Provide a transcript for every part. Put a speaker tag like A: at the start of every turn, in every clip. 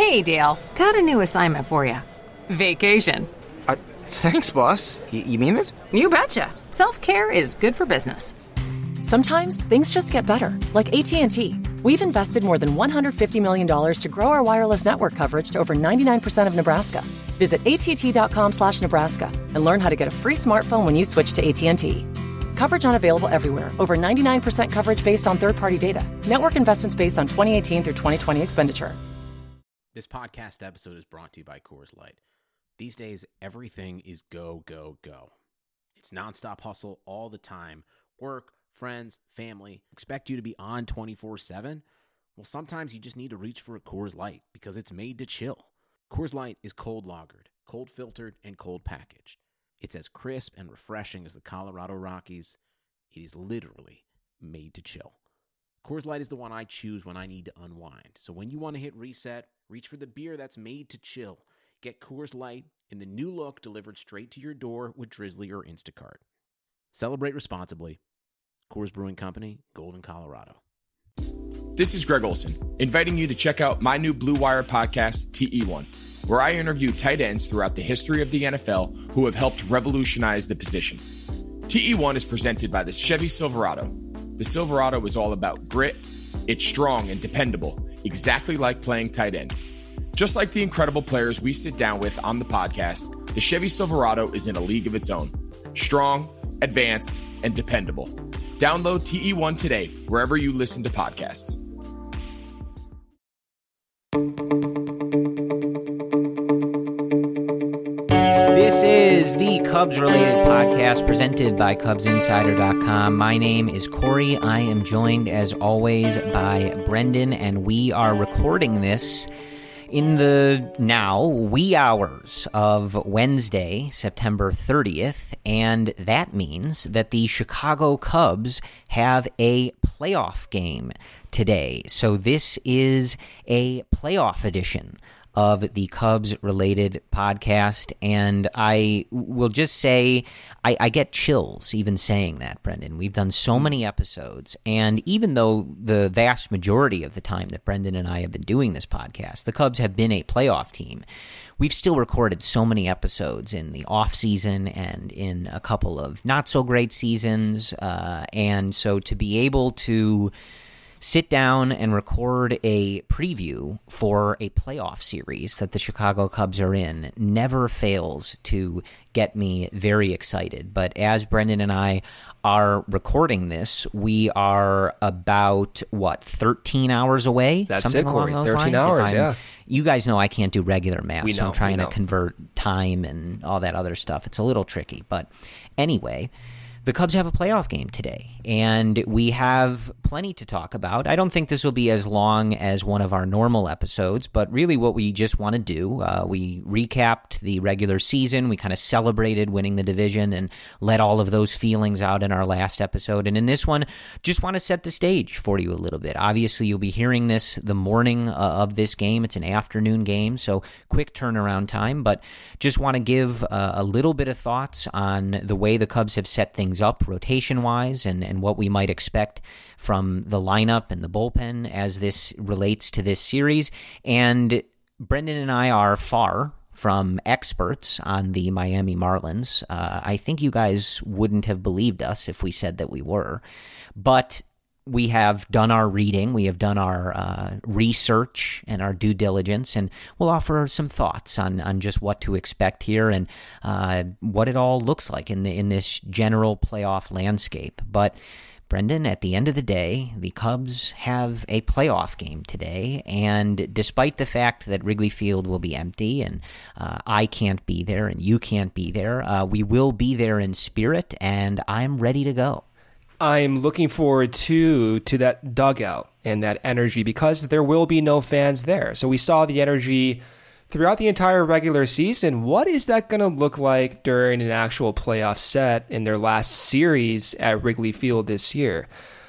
A: Hey, Dale. Got a new assignment for you. Vacation.
B: Thanks, boss. You mean it?
A: You betcha. Self-care is good for business.
C: Sometimes things just get better, like AT&T. We've invested more than $150 million to grow our wireless network coverage to over 99% of Nebraska. Visit att.com/Nebraska and learn how to get a free smartphone when you switch to AT&T. Coverage unavailable everywhere. Over 99% coverage based on third-party data. Network investments based on 2018 through 2020 expenditure.
D: This podcast episode is brought to you by Coors Light. These days, everything is go, go, go. It's nonstop hustle all the time. Work, friends, family, expect you to be on 24/7? Well, sometimes you just need to reach for a Coors Light because it's made to chill. Coors Light is cold lagered, cold filtered, and cold packaged. It's as crisp and refreshing as the Colorado Rockies. It is literally made to chill. Coors Light is the one I choose when I need to unwind. So when you want to hit reset, reach for the beer that's made to chill. Get Coors Light in the new look delivered straight to your door with Drizzly or Instacart. Celebrate responsibly. Coors Brewing Company, Golden, Colorado.
E: This is Greg Olson, inviting you to check out my new Blue Wire podcast, TE1, where I interview tight ends throughout the history of the NFL who have helped revolutionize the position. TE1 is presented by the Chevy Silverado. The Silverado is all about grit. It's strong and dependable, exactly like playing tight end. Just like the incredible players we sit down with on the podcast, the Chevy Silverado is in a league of its own. Strong, advanced, and dependable. Download TE1 today, wherever you listen to podcasts.
F: This is the Cubs-related podcast presented by CubsInsider.com. My name is Corey. I am joined, as always, by Brendan, and we are recording this in the now wee hours of Wednesday, September 30th, and that means that the Chicago Cubs have a playoff game today. So this is a playoff edition of the Cubs-related podcast, and I will just say I get chills even saying that, Brendan. We've done so many episodes, and even though the vast majority of the time that Brendan and I have been doing this podcast, the Cubs have been a playoff team, we've still recorded so many episodes in the off-season and in a couple of not-so-great seasons, and so to be able to sit down and record a preview for a playoff series that the Chicago Cubs are in never fails to get me very excited. But as Brendan and I are recording this, we are about, 13 hours away?
G: That's
F: Something
G: it, Corey.
F: along those
G: 13
F: lines?
G: hours, yeah.
F: You guys know I can't do regular math, so I'm trying
G: to
F: convert time and all that other stuff. It's a little tricky. But anyway, the Cubs have a playoff game today, and we have plenty to talk about. I don't think this will be as long as one of our normal episodes, but really what we just want to do, we recapped the regular season, we kind of celebrated winning the division and let all of those feelings out in our last episode, and in this one, just want to set the stage for you a little bit. Obviously, you'll be hearing this the morning of this game. It's an afternoon game, so quick turnaround time, but just want to give a little bit of thoughts on the way the Cubs have set things up rotation-wise and what we might expect from the lineup and the bullpen as this relates to this series. And Brendan and I are far from experts on the Miami Marlins. I think you guys wouldn't have believed us if we said that we were. But we have done our reading, we have done our research and our due diligence, and we'll offer some thoughts on just what to expect here and what it all looks like in this general playoff landscape. But Brendan, at the end of the day, the Cubs have a playoff game today, and despite the fact that Wrigley Field will be empty and I can't be there and you can't be there, we will be there in spirit, and I'm ready to go.
G: I'm looking forward to that dugout and that energy because there will be no fans there. So we saw the energy throughout the entire regular season. What is that going to look like during an actual playoff set in their last series at Wrigley Field this year?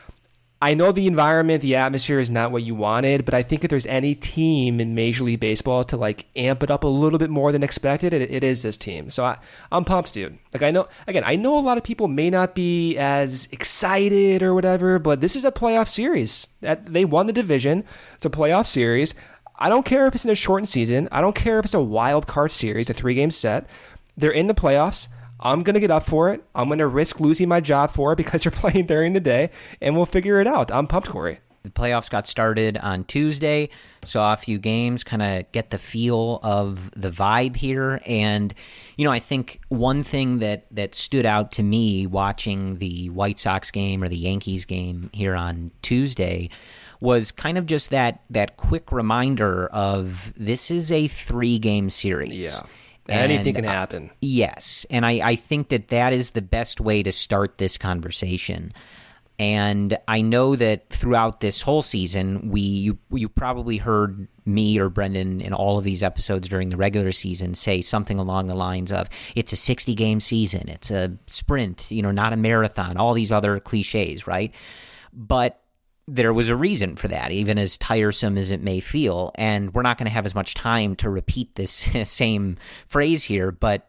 G: I know the environment, the atmosphere is not what you wanted, but I think if there's any team in Major League Baseball to amp it up a little bit more than expected, it is this team. So I'm pumped, dude. I know a lot of people may not be as excited or whatever, but this is a playoff series. They won the division. It's a playoff series. I don't care if it's in a shortened season. I don't care if it's a wild card series, a 3-game set. They're in the playoffs. I'm going to get up for it. I'm going to risk losing my job for it because they're playing during the day, and we'll figure it out. I'm pumped, Corey.
F: The playoffs got started on Tuesday, saw a few games, kind of get the feel of the vibe here. And, I think one thing that stood out to me watching the White Sox game or the Yankees game here on Tuesday was kind of just that quick reminder of this is a 3-game series.
G: Yeah. Anything can happen.
F: Yes. And I think that is the best way to start this conversation. And I know that throughout this whole season, you probably heard me or Brendan in all of these episodes during the regular season say something along the lines of, it's a 60-game season, it's a sprint, not a marathon, all these other cliches, right? But there was a reason for that, even as tiresome as it may feel. And we're not going to have as much time to repeat this same phrase here, but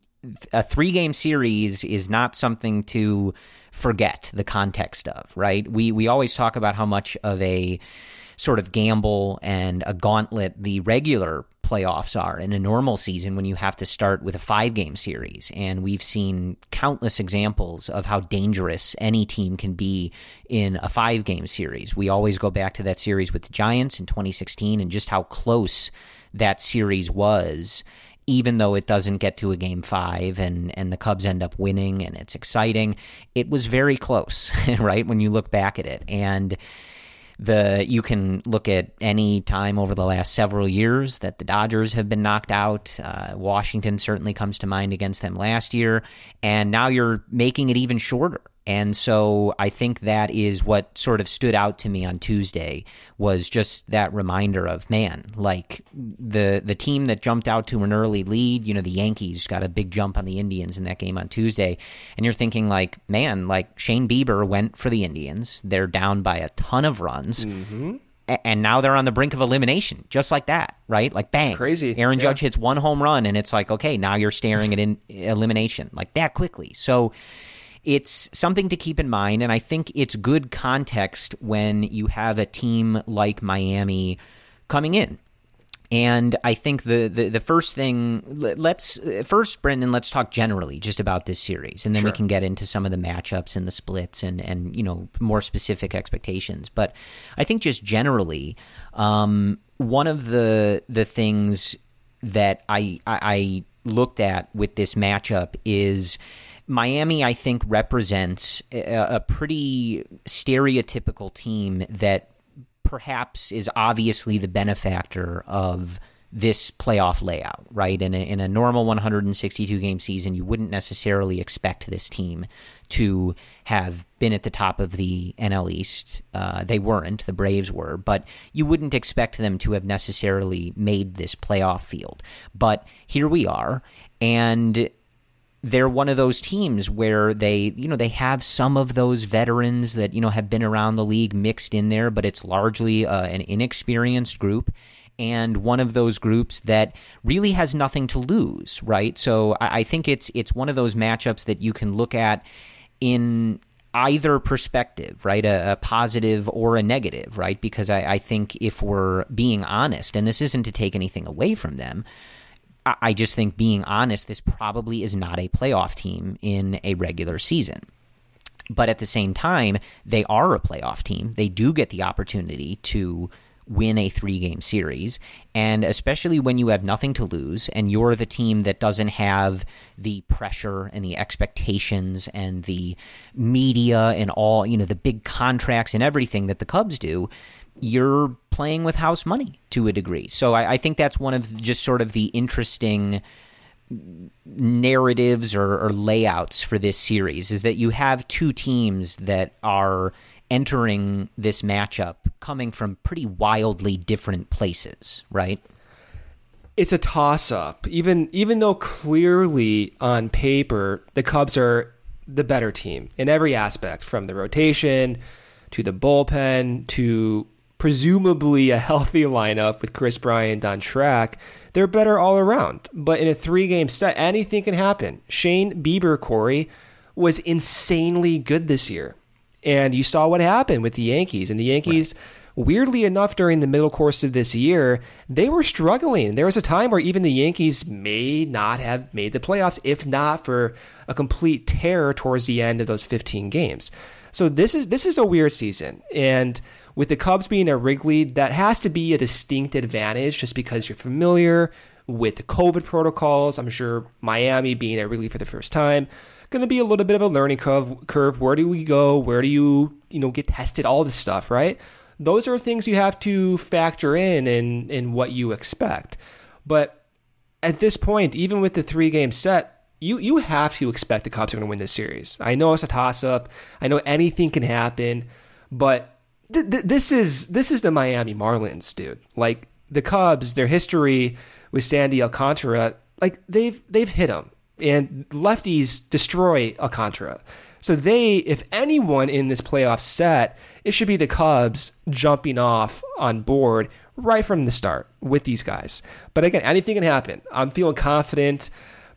F: a 3-game series is not something to forget the context of, right? We always talk about how much of a sort of gamble and a gauntlet the regular playoffs are in a normal season when you have to start with a 5-game series. And we've seen countless examples of how dangerous any team can be in a 5-game series. We always go back to that series with the Giants in 2016 and just how close that series was, even though it doesn't get to a game 5 and the Cubs end up winning and it's exciting. It was very close, right, when you look back at it. And you can look at any time over the last several years that the Dodgers have been knocked out. Washington certainly comes to mind against them last year. And now you're making it even shorter. And so I think that is what sort of stood out to me on Tuesday, was just that reminder of, man, like the team that jumped out to an early lead, the Yankees got a big jump on the Indians in that game on Tuesday. And you're thinking like, man, like Shane Bieber went for the Indians. They're down by a ton of runs. Mm-hmm. And now they're on the brink of elimination, just like that, right? Like, bang.
G: It's crazy.
F: Aaron Judge hits one home run, and it's like, okay, now you're staring at elimination like that quickly. So it's something to keep in mind, and I think it's good context when you have a team like Miami coming in. And I think the first thing, Brendan, let's talk generally just about this series, and then we can get into some of the matchups and the splits and more specific expectations. But I think just generally, one of the things that I looked at with this matchup is Miami, I think, represents a pretty stereotypical team that perhaps is obviously the benefactor of this playoff layout, right? In a normal 162-game season, you wouldn't necessarily expect this team to have been at the top of the NL East. They weren't. The Braves were. But you wouldn't expect them to have necessarily made this playoff field. But here we are, and they're one of those teams where they have some of those veterans that, have been around the league mixed in there, but it's largely an inexperienced group, and one of those groups that really has nothing to lose, right? So I think it's one of those matchups that you can look at in either perspective, right? A positive or a negative, right? Because I think if we're being honest, and this isn't to take anything away from them, I just think, being honest, this probably is not a playoff team in a regular season. But at the same time, they are a playoff team. They do get the opportunity to win a 3-game series. And especially when you have nothing to lose and you're the team that doesn't have the pressure and the expectations and the media and all, the big contracts and everything that the Cubs do, you're playing with house money to a degree. So I think that's one of just sort of the interesting narratives or layouts for this series, is that you have two teams that are entering this matchup coming from pretty wildly different places, right?
G: It's a toss-up. Even though clearly on paper the Cubs are the better team in every aspect, from the rotation to the bullpen to presumably a healthy lineup with Chris Bryant on track, they're better all around. But in a 3-game set, anything can happen. Shane Bieber, Corey, was insanely good this year. And you saw what happened with the Yankees. And the Yankees weirdly enough, during the middle course of this year, they were struggling. There was a time where even the Yankees may not have made the playoffs, if not for a complete tear towards the end of those 15 games. So this is a weird season. And with the Cubs being at Wrigley, that has to be a distinct advantage just because you're familiar with the COVID protocols. I'm sure Miami being at Wrigley for the first time, going to be a little bit of a learning curve. Where do we go? Where do you get tested? All this stuff, right? Those are things you have to factor in what you expect. But at this point, even with the 3-game set, you have to expect the Cubs are going to win this series. I know it's a toss-up. I know anything can happen, but this is the Miami Marlins, dude. Like, the Cubs, their history with Sandy Alcantara, like they've hit them, and lefties destroy Alcantara. So if anyone in this playoff set, it should be the Cubs jumping off on board right from the start with these guys. But again, anything can happen. I'm feeling confident.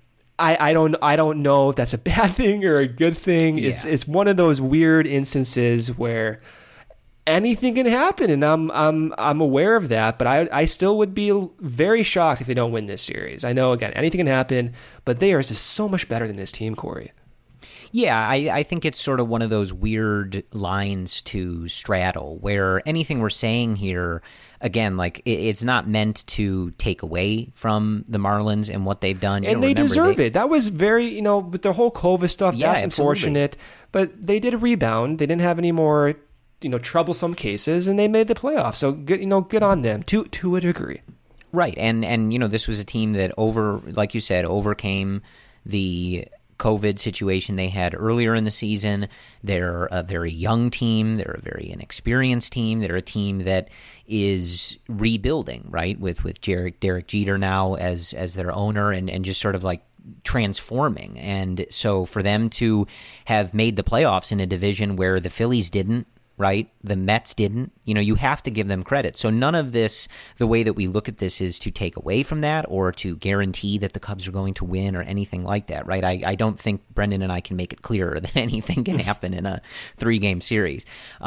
G: I don't know if that's a bad thing or a good thing. Yeah. It's one of those weird instances where anything can happen, and I'm aware of that, but I still would be very shocked if they don't win this series. I know, again, anything can happen, but they are just so much better than this team, Corey.
F: Yeah, I think it's sort of one of those weird lines to straddle where anything we're saying here, again, like it's not meant to take away from the Marlins and what they've done.
G: And they deserve it. That was very, with the whole COVID stuff, that's unfortunate. But they did a rebound. They didn't have any more troublesome cases, and they made the playoffs. So good on them to a degree.
F: Right, and this was a team that like you said, overcame the COVID situation they had earlier in the season. They're a very young team. They're a very inexperienced team. They're a team that is rebuilding, right, with Derek Jeter now as their owner and just sort of like transforming. And so for them to have made the playoffs in a division where the Phillies didn't, right? The Mets didn't. You have to give them credit. So none of this, the way that we look at this, is to take away from that or to guarantee that the Cubs are going to win or anything like that, right? I don't think Brendan and I can make it clearer that anything can happen in a 3-game series.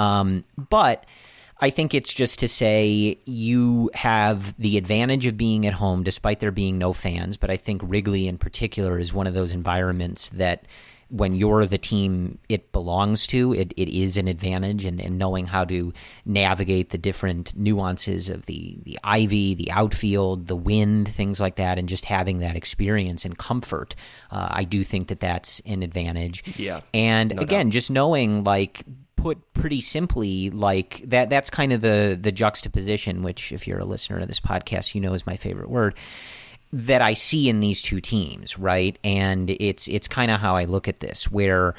F: But I think it's just to say you have the advantage of being at home despite there being no fans. But I think Wrigley in particular is one of those environments that when you're the team it belongs to, it is an advantage, and knowing how to navigate the different nuances of the ivy, the outfield, the wind, things like that, and just having that experience and comfort, I do think that that's an advantage.
G: Yeah.
F: And again, just knowing, like, put pretty simply, like that's kind of the juxtaposition, which if you're a listener to this podcast, is my favorite word, that I see in these two teams, right? And it's kind of how I look at this, where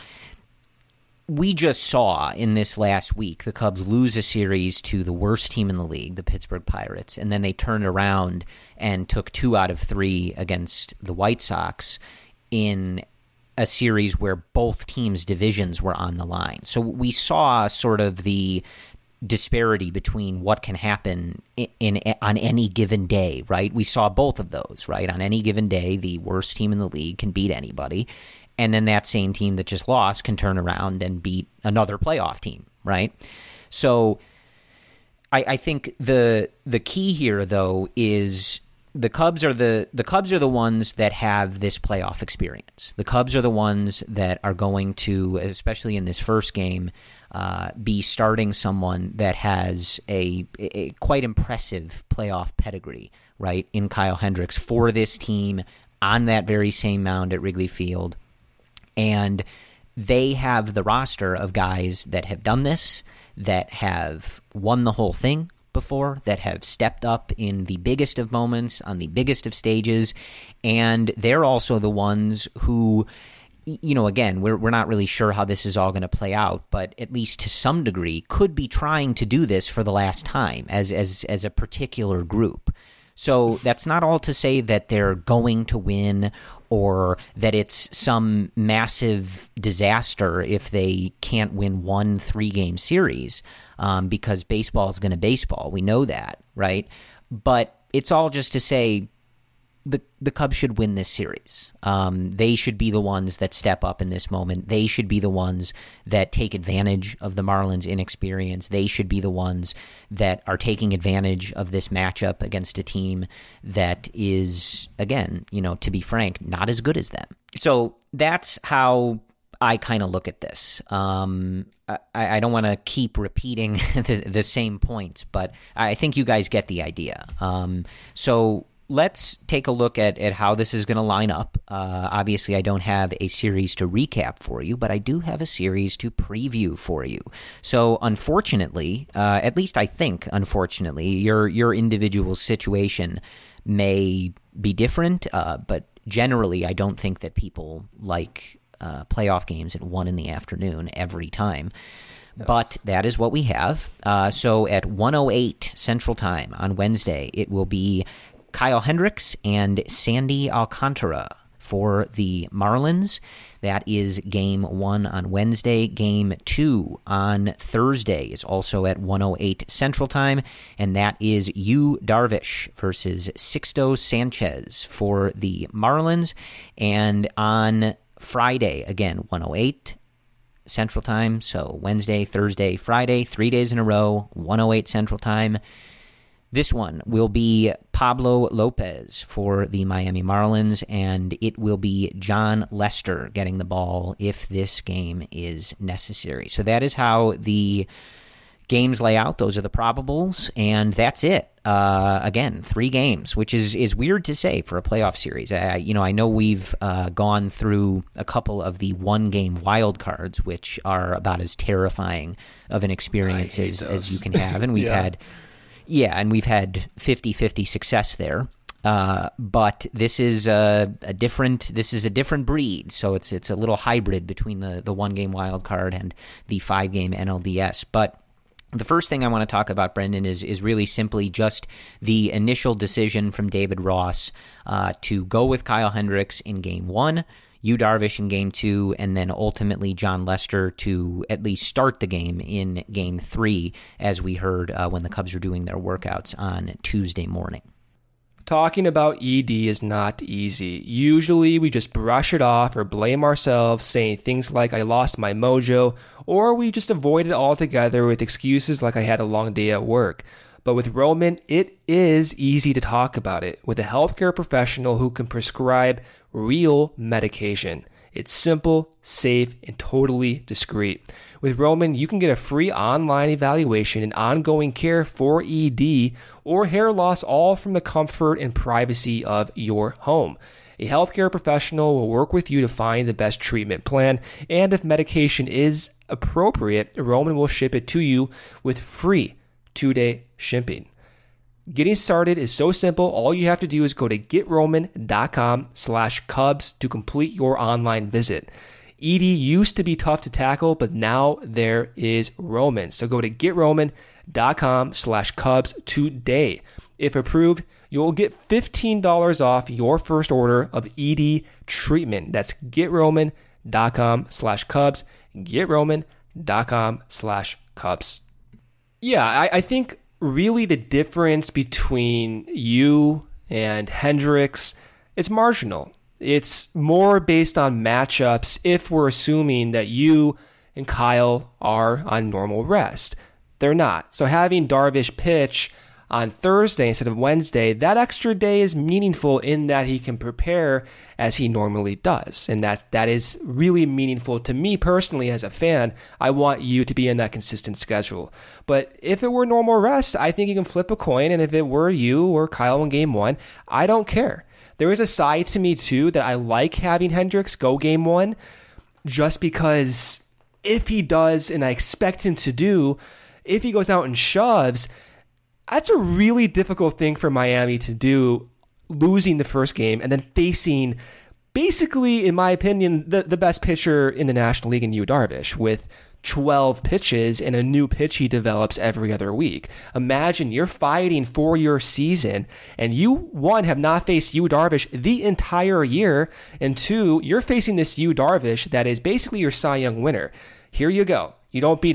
F: we just saw in this last week the Cubs lose a series to the worst team in the league, the Pittsburgh Pirates, and then they turned around and took 2 out of 3 against the White Sox in a series where both teams' divisions were on the line. So we saw sort of the disparity between what can happen on any given day, right? We saw both of those, right? On any given day, the worst team in the league can beat anybody, and then that same team that just lost can turn around and beat another playoff team, right? So I think the key here, though, is the Cubs are the ones that have this playoff experience. The Cubs are the ones that are going to, especially in this first game, be starting someone that has a quite impressive playoff pedigree, right, in Kyle Hendricks for this team on that very same mound at Wrigley Field. And they have the roster of guys that have done this, that have won the whole thing before, that have stepped up in the biggest of moments, on the biggest of stages, and they're also the ones who, again, we're not really sure how this is all going to play out, but at least to some degree could be trying to do this for the last time as a particular group. So that's not all to say that they're going to win or that it's some massive disaster if they can't win one 3-game series, because baseball is going to baseball. We know that, right? But it's all just to say the Cubs should win this series. They should be the ones that step up in this moment. They should be the ones that take advantage of the Marlins' inexperience. They should be the ones that are taking advantage of this matchup against a team that is, again, to be frank, not as good as them. So that's how I kind of look at this. I don't want to keep repeating the same points, but I think you guys get the idea. So let's take a look at how this is going to line up. Obviously, I don't have a series to recap for you, but I do have a series to preview for you. So unfortunately, at least I think, unfortunately, your individual situation may be different, but generally, I don't think that people like playoff games at 1 p.m. every time. But that is what we have. So at 1:08 Central Time on Wednesday, it will be Kyle Hendricks and Sandy Alcantara for the Marlins. That is Game 1 on Wednesday. Game 2 on Thursday is also at 1:08 Central Time, and that is Yu Darvish versus Sixto Sanchez for the Marlins. And on Friday, again, 1:08 Central Time, so Wednesday, Thursday, Friday, 3 days in a row, 1:08 Central Time. This one will be Pablo Lopez for the Miami Marlins, and it will be John Lester getting the ball if this game is necessary. So that is how the games lay out. Those are the probables, and that's it. Again, 3 games, which is weird to say for a playoff series. I know we've gone through a couple of the 1-game wild cards, which are about as terrifying of an experience as you can have, and we've had 50-50 success there. But this is a different breed. So it's a little hybrid between the 1-game wild card and the 5-game NLDS. But the first thing I want to talk about, Brendan, is really simply just the initial decision from David Ross to go with Kyle Hendricks in Game 1, Yu Darvish in Game 2, and then ultimately John Lester to at least start the game in Game 3, as we heard when the Cubs were doing their workouts on Tuesday morning.
G: Talking about ED is not easy. Usually we just brush it off or blame ourselves, saying things like I lost my mojo, or we just avoid it altogether with excuses like I had a long day at work. But with Roman, it is easy to talk about it with a healthcare professional who can prescribe real medication. It's simple, safe, and totally discreet. With Roman, you can get a free online evaluation and ongoing care for ED or hair loss, all from the comfort and privacy of your home. A healthcare professional will work with you to find the best treatment plan, and if medication is appropriate, Roman will ship it to you with free 2-day shipping. Getting started is so simple. All you have to do is go to GetRoman.com/Cubs to complete your online visit. ED used to be tough to tackle, but now there is Roman. So go to GetRoman.com/Cubs today. If approved, you'll get $15 off your first order of ED treatment. That's GetRoman.com/Cubs. GetRoman.com/Cubs. Yeah, I think really the difference between you and Hendricks, it's marginal. It's more based on matchups if we're assuming that you and Kyle are on normal rest. They're not. So having Darvish pitch on Thursday instead of Wednesday, that extra day is meaningful in that he can prepare as he normally does. And that is really meaningful to me personally as a fan. I want you to be in that consistent schedule. But if it were normal rest, I think you can flip a coin. And if it were you or Kyle in Game 1, I don't care. There is a side to me too that I like having Hendricks go Game 1 just because if he does, and I expect him to do, if he goes out and shoves, that's a really difficult thing for Miami to do, losing the first game and then facing basically, in my opinion, the best pitcher in the National League in Yu Darvish with 12 pitches and a new pitch he develops every other week. Imagine you're fighting for your season and you, 1, have not faced Yu Darvish the entire year, and 2, you're facing this Yu Darvish that is basically your Cy Young winner. Here you go. You don't beat him,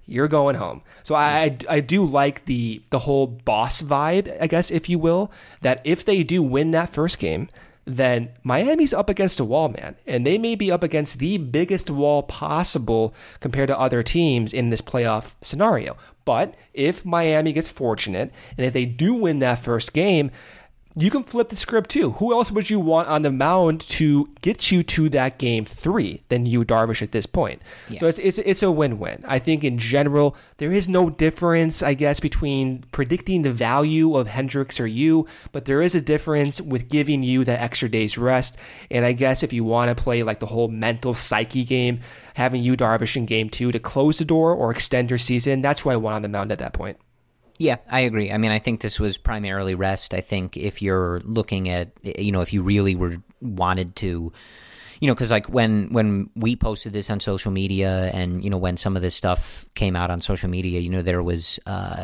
G: you're going home. So I do like the whole boss vibe, I guess, if you will, that if they do win that first game, then Miami's up against a wall, man. And they may be up against the biggest wall possible compared to other teams in this playoff scenario. But if Miami gets fortunate, and if they do win that first game, you can flip the script too. Who else would you want on the mound to get you to that game 3 than Yu Darvish at this point? Yeah. So it's a win-win. I think in general, there is no difference, I guess, between predicting the value of Hendricks or Yu, but there is a difference with giving you that extra day's rest. And I guess if you want to play like the whole mental psyche game, having Yu Darvish in game 2 to close the door or extend your season, that's who I want on the mound at that point.
F: Yeah, I agree. I mean, I think this was primarily rest. I think if you're looking at, if you really wanted to, because like when we posted this on social media and, when some of this stuff came out on social media, there was,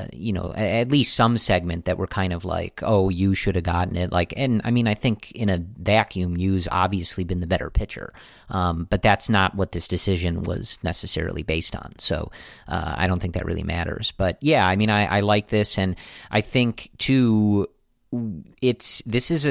F: at least some segment that were kind of like, oh, you should have gotten it. Like, and I mean, I think in a vacuum, Yu's obviously been the better pitcher. But that's not what this decision was necessarily based on. So I don't think that really matters. But yeah, I mean, I like this. And I think too, this is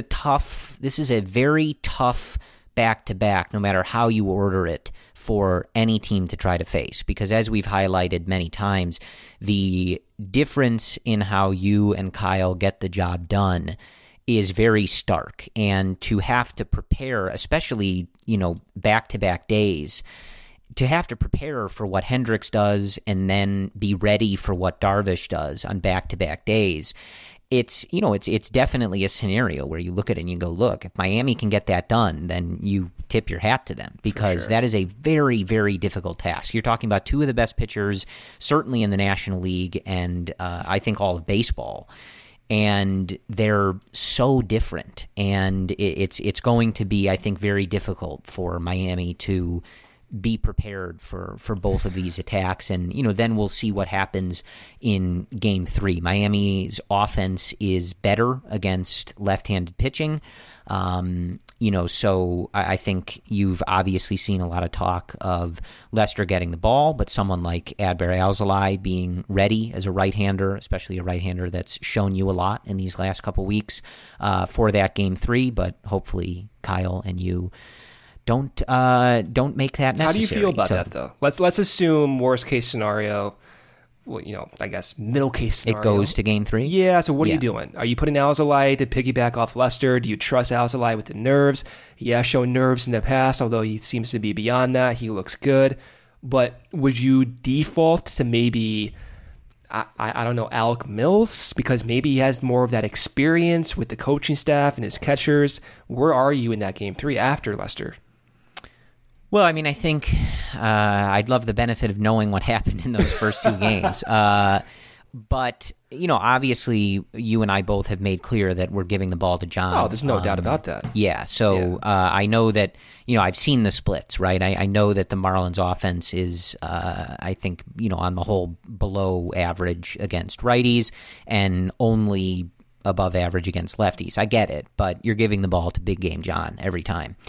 F: a very tough back-to-back, no matter how you order it, for any team to try to face. Because as we've highlighted many times, the difference in how you and Kyle get the job done is very stark. And to have to prepare, especially, back-to-back days, to have to prepare for what Hendricks does and then be ready for what Darvish does on back-to-back days, it's definitely a scenario where you look at it and you go, look, if Miami can get that done, then you tip your hat to them, because that is a very, very difficult task. You're talking about two of the best pitchers, certainly in the National League, and I think all of baseball. And they're so different, and it's going to be, I think, very difficult for Miami to be prepared for both of these attacks. And, then we'll see what happens in game 3. Miami's offense is better against left-handed pitching. So I think you've obviously seen a lot of talk of Lester getting the ball, but someone like Adbert Alzolay being ready as a right-hander, especially a right-hander that's shown you a lot in these last couple weeks for that game 3. But hopefully Kyle and you don't make that necessary.
G: How do you feel about that, though? Let's assume worst case scenario. Well, I guess middle case scenario.
F: It goes to game 3?
G: Yeah, so what are you doing? Are you putting Alzolay to piggyback off Lester? Do you trust Alzolay with the nerves? He has shown nerves in the past, although he seems to be beyond that. He looks good. But would you default to maybe, I don't know, Alec Mills? Because maybe he has more of that experience with the coaching staff and his catchers. Where are you in that game 3 after Lester?
F: Well, I mean, I think I'd love the benefit of knowing what happened in those first 2 games. But, obviously you and I both have made clear that we're giving the ball to John.
G: Oh, there's no doubt about that.
F: Yeah. So I know that, I've seen the splits, right? I know that the Marlins offense is, I think, on the whole below average against righties and only above average against lefties. I get it, but you're giving the ball to Big Game John every time.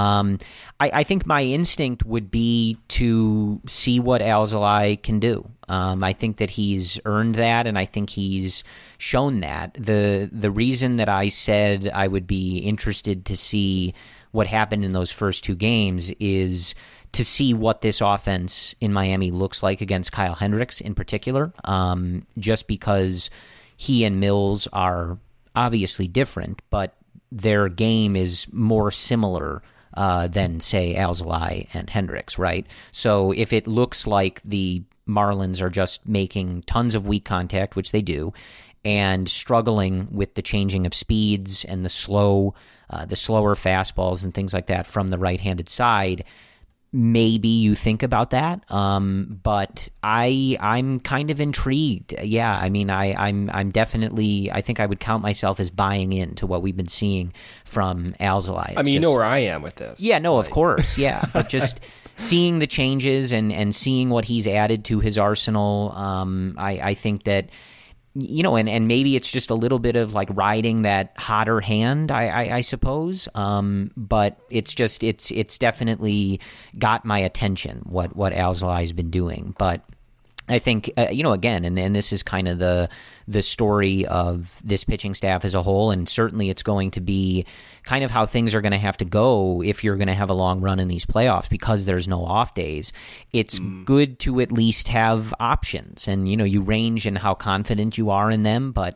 F: I think my instinct would be to see what Alzolay can do. I think that he's earned that, and I think he's shown that. The reason that I said I would be interested to see what happened in those first 2 games is to see what this offense in Miami looks like against Kyle Hendricks in particular, just because he and Mills are obviously different, but their game is more similar than, say, Alzolay and Hendricks, right? So if it looks like the Marlins are just making tons of weak contact, which they do, and struggling with the changing of speeds and the slower fastballs and things like that from the right-handed side, maybe you think about that, but I'm kind of intrigued. Yeah, I mean, I'm definitely. I think I would count myself as buying into what we've been seeing from Alzolay.
G: I mean, you know where I am with this.
F: Yeah, no, of course, yeah, but just seeing the changes and seeing what he's added to his arsenal, I think that. And maybe it's just a little bit of like riding that hotter hand, I suppose. But it's definitely got my attention what Alzolay has been doing. But I think, again, and this is kind of the story of this pitching staff as a whole, and certainly it's going to be kind of how things are going to have to go if you're going to have a long run in these playoffs because there's no off days. It's good to at least have options, and, you range in how confident you are in them, but,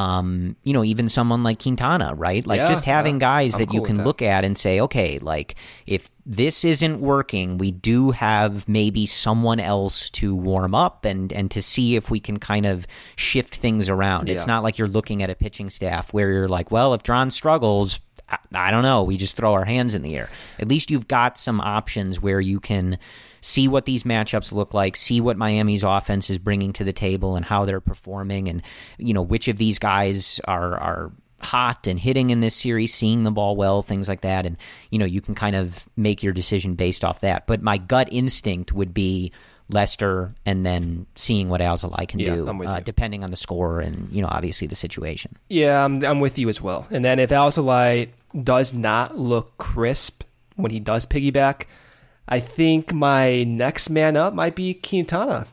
F: even someone like Quintana, right? Like just having guys that you can look at and say, okay, like if this isn't working, we do have maybe someone else to warm up and to see if we can kind of shift things around. Yeah. It's not like you're looking at a pitching staff where you're like, well, if Dron struggles, I don't know, we just throw our hands in the air. At least you've got some options where you can see what these matchups look like, see what Miami's offense is bringing to the table and how they're performing, and which of these guys are hot and hitting in this series, seeing the ball well, things like that. And, you can kind of make your decision based off that. But my gut instinct would be Lester and then seeing what Alzolay can do, depending on the score and, obviously the situation.
G: Yeah, I'm with you as well. And then if Alzolay does not look crisp when he does piggyback, I think my next man up might be Quintana.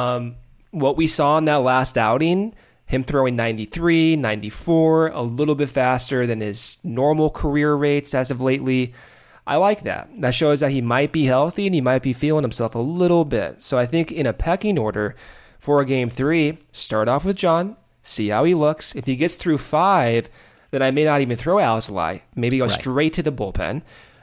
G: What we saw in that last outing, him throwing 93, 94, a little bit faster than his normal career rates as of lately. I like that. That shows that he might be healthy and he might be feeling himself a little bit. So I think in a pecking order for a Game 3, start off with John, see how he looks. If he gets through 5, then I may not even throw Alzolay. Maybe go straight to the bullpen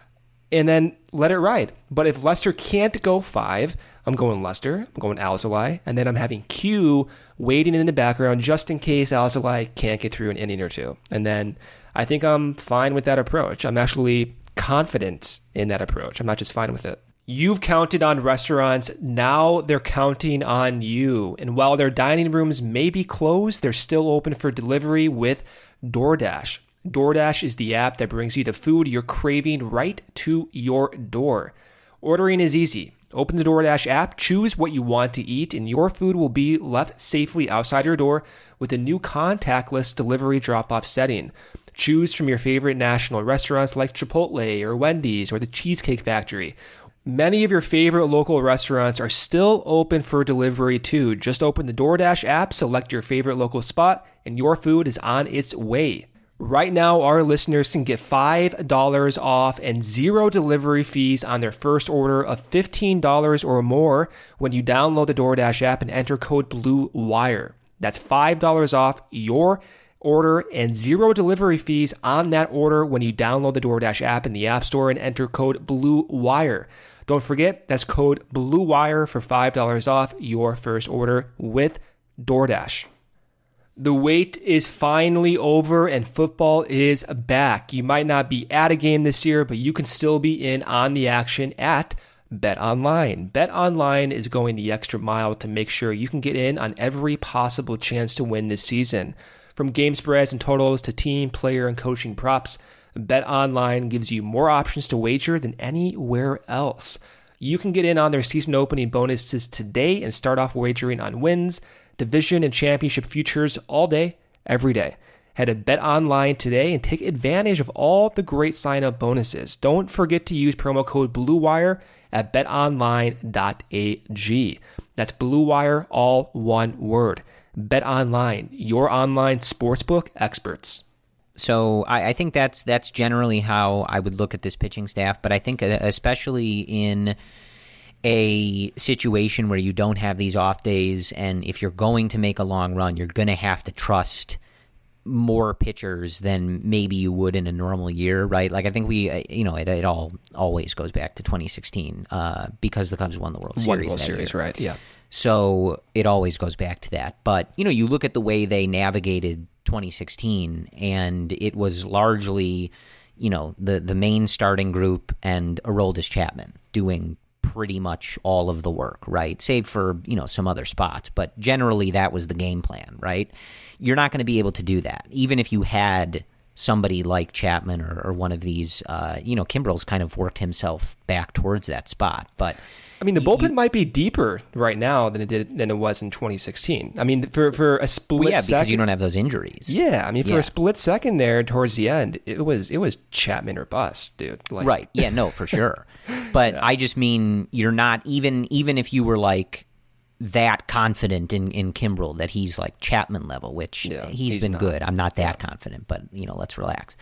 G: and then let it ride. But if Lester can't go 5, I'm going Lester, I'm going Alzolay, and then I'm having Q waiting in the background just in case Alzolay can't get through an inning or two. And then I think I'm fine with that approach. I'm actually confident in that approach. I'm not just fine with it. You've counted on restaurants, now they're counting on you. And while their dining rooms may be closed, they're still open for delivery with DoorDash. DoorDash is the app that brings you the food you're craving right to your door. Ordering is easy. Open the DoorDash app, choose what you want to eat, and your food will be left safely outside your door with a new contactless delivery drop-off setting. Choose from your favorite national restaurants like Chipotle or Wendy's or the Cheesecake Factory. Many of your favorite local restaurants are still open for delivery too. Just open the DoorDash app, select your favorite local spot, and your food is on its way. Right now, our listeners can get $5 off and 0 delivery fees on their first order of $15 or more when you download the DoorDash app and enter code BLUEWIRE. That's $5 off your order and 0 delivery fees on that order when you download the DoorDash app in the App Store and enter code BLUEWIRE. Don't forget, that's code BLUEWIRE for $5 off your first order with DoorDash. The wait is finally over and football is back. You might not be at a game this year, but you can still be in on the action at BetOnline. BetOnline is going the extra mile to make sure you can get in on every possible chance to win this season. From game spreads and totals to team, player, and coaching props, BetOnline gives you more options to wager than anywhere else. You can get in on their season opening bonuses today and start off wagering on wins, division, and championship futures all day, every day. Head to BetOnline today and take advantage of all the great sign-up bonuses. Don't forget to use promo code BLUEWIRE at betonline.ag. That's BLUEWIRE, all one word. BetOnline, your online sportsbook experts.
F: So I think that's generally how I would look at this pitching staff, but I think especially in a situation where you don't have these off days, and if you're going to make a long run, you're going to have to trust more pitchers than maybe you would in a normal year, right? Like I think it all always goes back to 2016 because the Cubs won the World Series.
G: Right? Yeah.
F: So it always goes back to that. But you look at the way they navigated 2016, and it was largely the main starting group and Aroldis Chapman doing pretty much all of the work, right? Save for, some other spots. But generally that was the game plan, right? You're not going to be able to do that. Even if you had somebody like Chapman or one of these, Kimbrel's kind of worked himself back towards that spot. But
G: I mean, the bullpen might be deeper right now than it was in 2016. I mean, for a split second,
F: because you don't have those injuries.
G: Yeah, I mean, for a split second there towards the end, it was Chapman or bust, dude.
F: Right? Yeah, no, for sure. But yeah. I just mean you're not even if you were like that confident in Kimbrel that he's like Chapman level, which he's been good. I'm not that confident, but let's relax.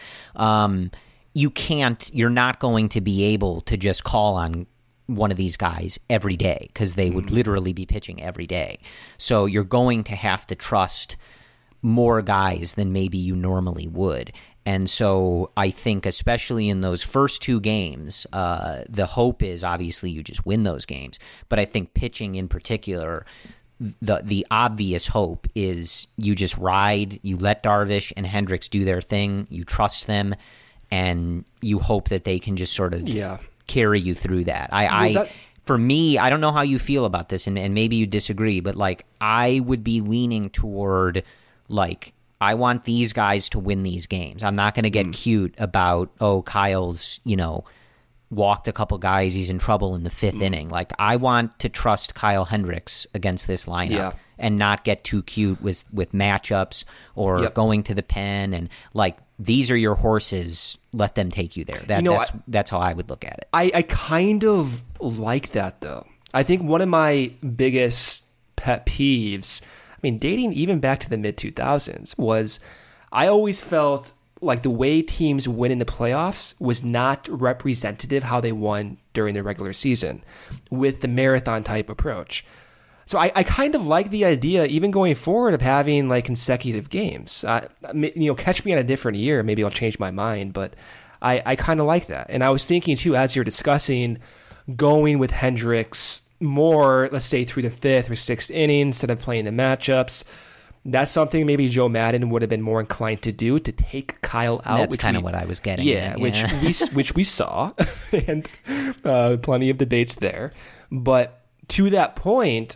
F: You're not going to be able to just call on one of these guys every day because they would literally be pitching every day. So you're going to have to trust more guys than maybe you normally would. And so I think especially in those first 2 games, the hope is obviously you just win those games. But I think pitching in particular, the obvious hope is you just ride, you let Darvish and Hendricks do their thing, you trust them, and you hope that they can just sort of carry you through that. For me, I don't know how you feel about this, and maybe you disagree, but like I would be leaning toward like I want these guys to win these games. I'm not going to get cute about, Kyle's, walked a couple guys, he's in trouble in the 5th inning. Like, I want to trust Kyle Hendricks against this lineup and not get too cute with matchups or going to the pen. And, like, these are your horses. Let them take you there. That's how I would look at it.
G: I kind of like that, though. I think one of my biggest pet peeves, dating even back to the mid-2000s, was I always felt like the way teams win in the playoffs was not representative how they won during the regular season with the marathon-type approach. So I kind of like the idea, even going forward, of having like consecutive games. Catch me on a different year, maybe I'll change my mind, but I kind of like that. And I was thinking, too, as you're discussing, going with Hendricks more, let's say, through the 5th or 6th inning instead of playing the matchups. That's something maybe Joe Maddon would have been more inclined to do, to take Kyle out.
F: That's kind of what I was getting at.
G: Which we saw, and plenty of debates there. But to that point,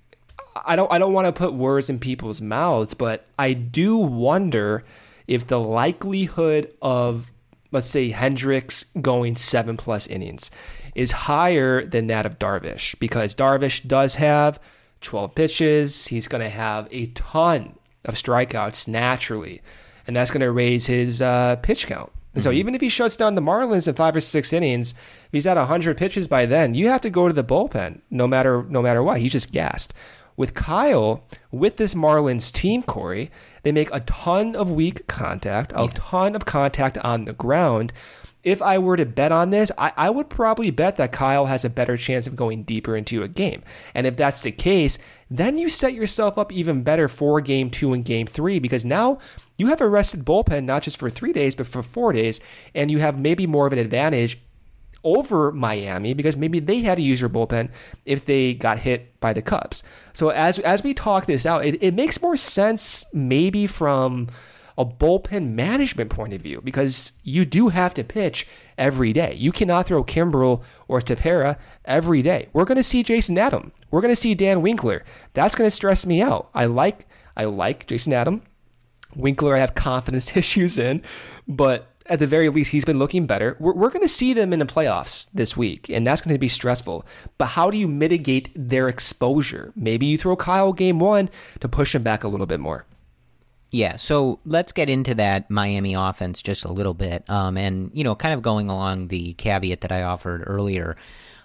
G: I don't want to put words in people's mouths, but I do wonder if the likelihood of, let's say, Hendricks going 7+ innings is higher than that of Darvish, because Darvish does have 12 pitches. He's going to have a ton of strikeouts naturally, and that's going to raise his pitch count. And so even if he shuts down the Marlins in 5 or 6 innings, if he's at 100 pitches by then, you have to go to the bullpen no matter what. He's just gassed. With Kyle, with this Marlins team, Corey, they make a ton of weak contact, a ton of contact on the ground. If I were to bet on this, I would probably bet that Kyle has a better chance of going deeper into a game. And if that's the case, then you set yourself up even better for Game 2 and Game 3, because now you have a rested bullpen, not just for 3 days, but for 4 days, and you have maybe more of an advantage over Miami, because maybe they had to use your bullpen if they got hit by the Cubs. So as we talk this out, it makes more sense maybe from a bullpen management point of view, because you do have to pitch every day. You cannot throw Kimbrel or Tepera every day. We're going to see Jason Adam. We're going to see Dan Winkler. That's going to stress me out. I like Jason Adam. Winkler I have confidence issues in, but at the very least, he's been looking better. We're going to see them in the playoffs this week, and that's going to be stressful. But how do you mitigate their exposure? Maybe you throw Kyle Game 1 to push him back a little bit more.
F: Yeah, so let's get into that Miami offense just a little bit. And, kind of going along the caveat that I offered earlier,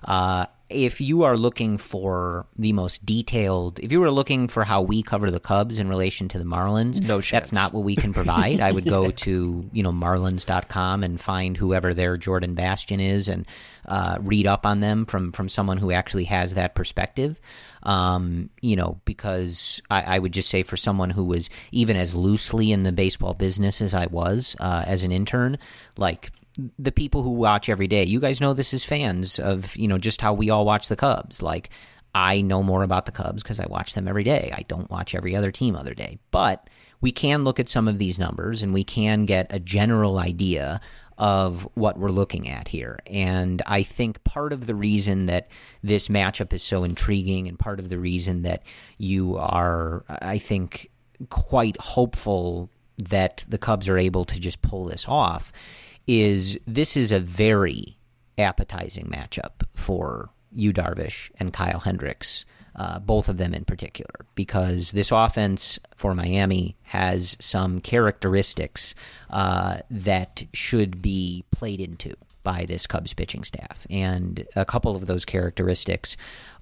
F: if you are looking for the most detailed, if you were looking for how we cover the Cubs in relation to the Marlins,
G: no chance.
F: That's not what we can provide. I would go to, Marlins.com and find whoever their Jordan Bastian is and read up on them from someone who actually has that perspective. Because I would just say, for someone who was even as loosely in the baseball business as I was as an intern, like, the people who watch every day, you guys know this as fans of, just how we all watch the Cubs. Like, I know more about the Cubs because I watch them every day. I don't watch every other team other day. But we can look at some of these numbers and we can get a general idea of what we're looking at here. And I think part of the reason that this matchup is so intriguing, and part of the reason that you are, I think, quite hopeful that the Cubs are able to just pull this off, is this is a very appetizing matchup for Yu Darvish and Kyle Hendricks, both of them in particular, because this offense for Miami has some characteristics that should be played into by this Cubs pitching staff. And a couple of those characteristics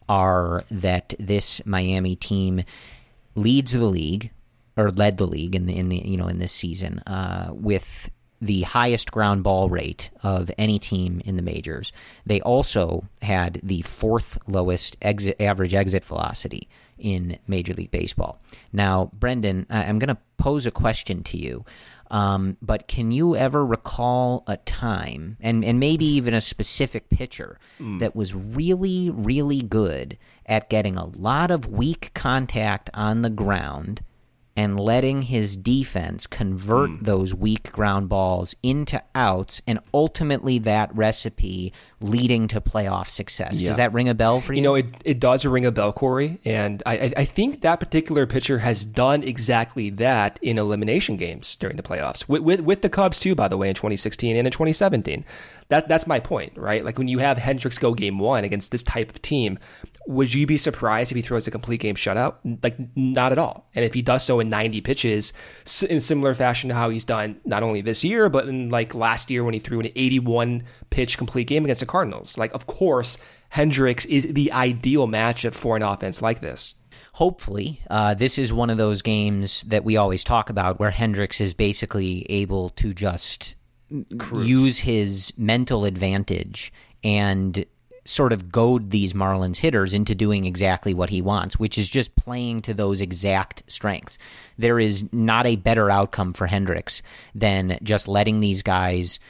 F: are that this Miami team leads the league, or led the league in this season with the highest ground ball rate of any team in the majors. They also had the fourth lowest average exit velocity in Major League Baseball. Now, Brendan, I'm going to pose a question to you, but can you ever recall a time, and maybe even a specific pitcher, that was really, really good at getting a lot of weak contact on the ground and letting his defense convert those weak ground balls into outs, and ultimately that recipe leading to playoff success? Does that ring a bell for you?
G: You know, it does ring a bell, Corey, and I think that particular pitcher has done exactly that in elimination games during the playoffs, with the Cubs too, by the way, in 2016 and in 2017. That's my point, right? Like, when you have Hendricks go game one against this type of team, would you be surprised if he throws a complete game shutout? Like, not at all. And if he does so in 90 pitches, in similar fashion to how he's done not only this year, but in like last year when he threw an 81 pitch complete game against the Cardinals. Like, of course, Hendricks is the ideal matchup for an offense like this.
F: Hopefully, this is one of those games that we always talk about where Hendricks is basically able to just use his mental advantage and sort of goad these Marlins hitters into doing exactly what he wants, which is just playing to those exact strengths. There is not a better outcome for Hendricks than just letting these guys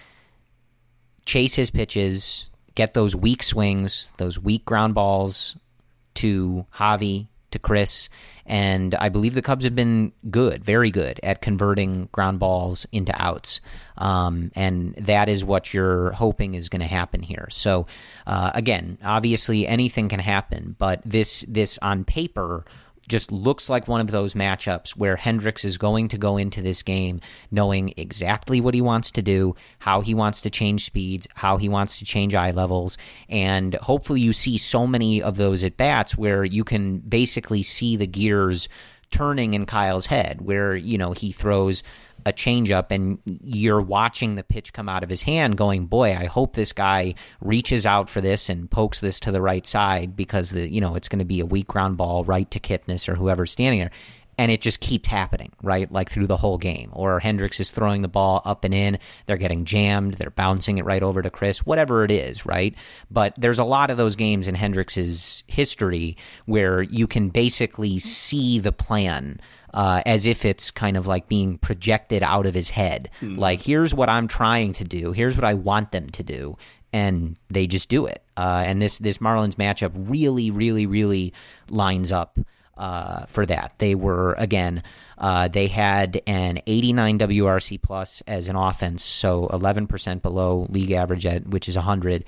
F: chase his pitches, get those weak swings, those weak ground balls to Javi, to Chris, and I believe the Cubs have been good, very good, at converting ground balls into outs, and that is what you're hoping is going to happen here. So, again, obviously anything can happen, but this on paper just looks like one of those matchups where Hendricks is going to go into this game knowing exactly what he wants to do, how he wants to change speeds, how he wants to change eye levels, and hopefully you see so many of those at-bats where you can basically see the gears turning in Kyle's head, where, you know, he throws a changeup and you're watching the pitch come out of his hand going, boy, I hope this guy reaches out for this and pokes this to the right side, because it's going to be a weak ground ball right to Kipnis or whoever's standing there. And it just keeps happening, right? Like through the whole game. Or Hendricks is throwing the ball up and in, they're getting jammed, they're bouncing it right over to Chris, whatever it is, right? But there's a lot of those games in Hendricks' history where you can basically see the plan as if it's kind of like being projected out of his head. Like, here's what I'm trying to do, here's what I want them to do, and they just do it. And this Marlins matchup really, really, really lines up for that. They were, again, they had an 89 WRC plus as an offense, so 11% below league average, which is 100,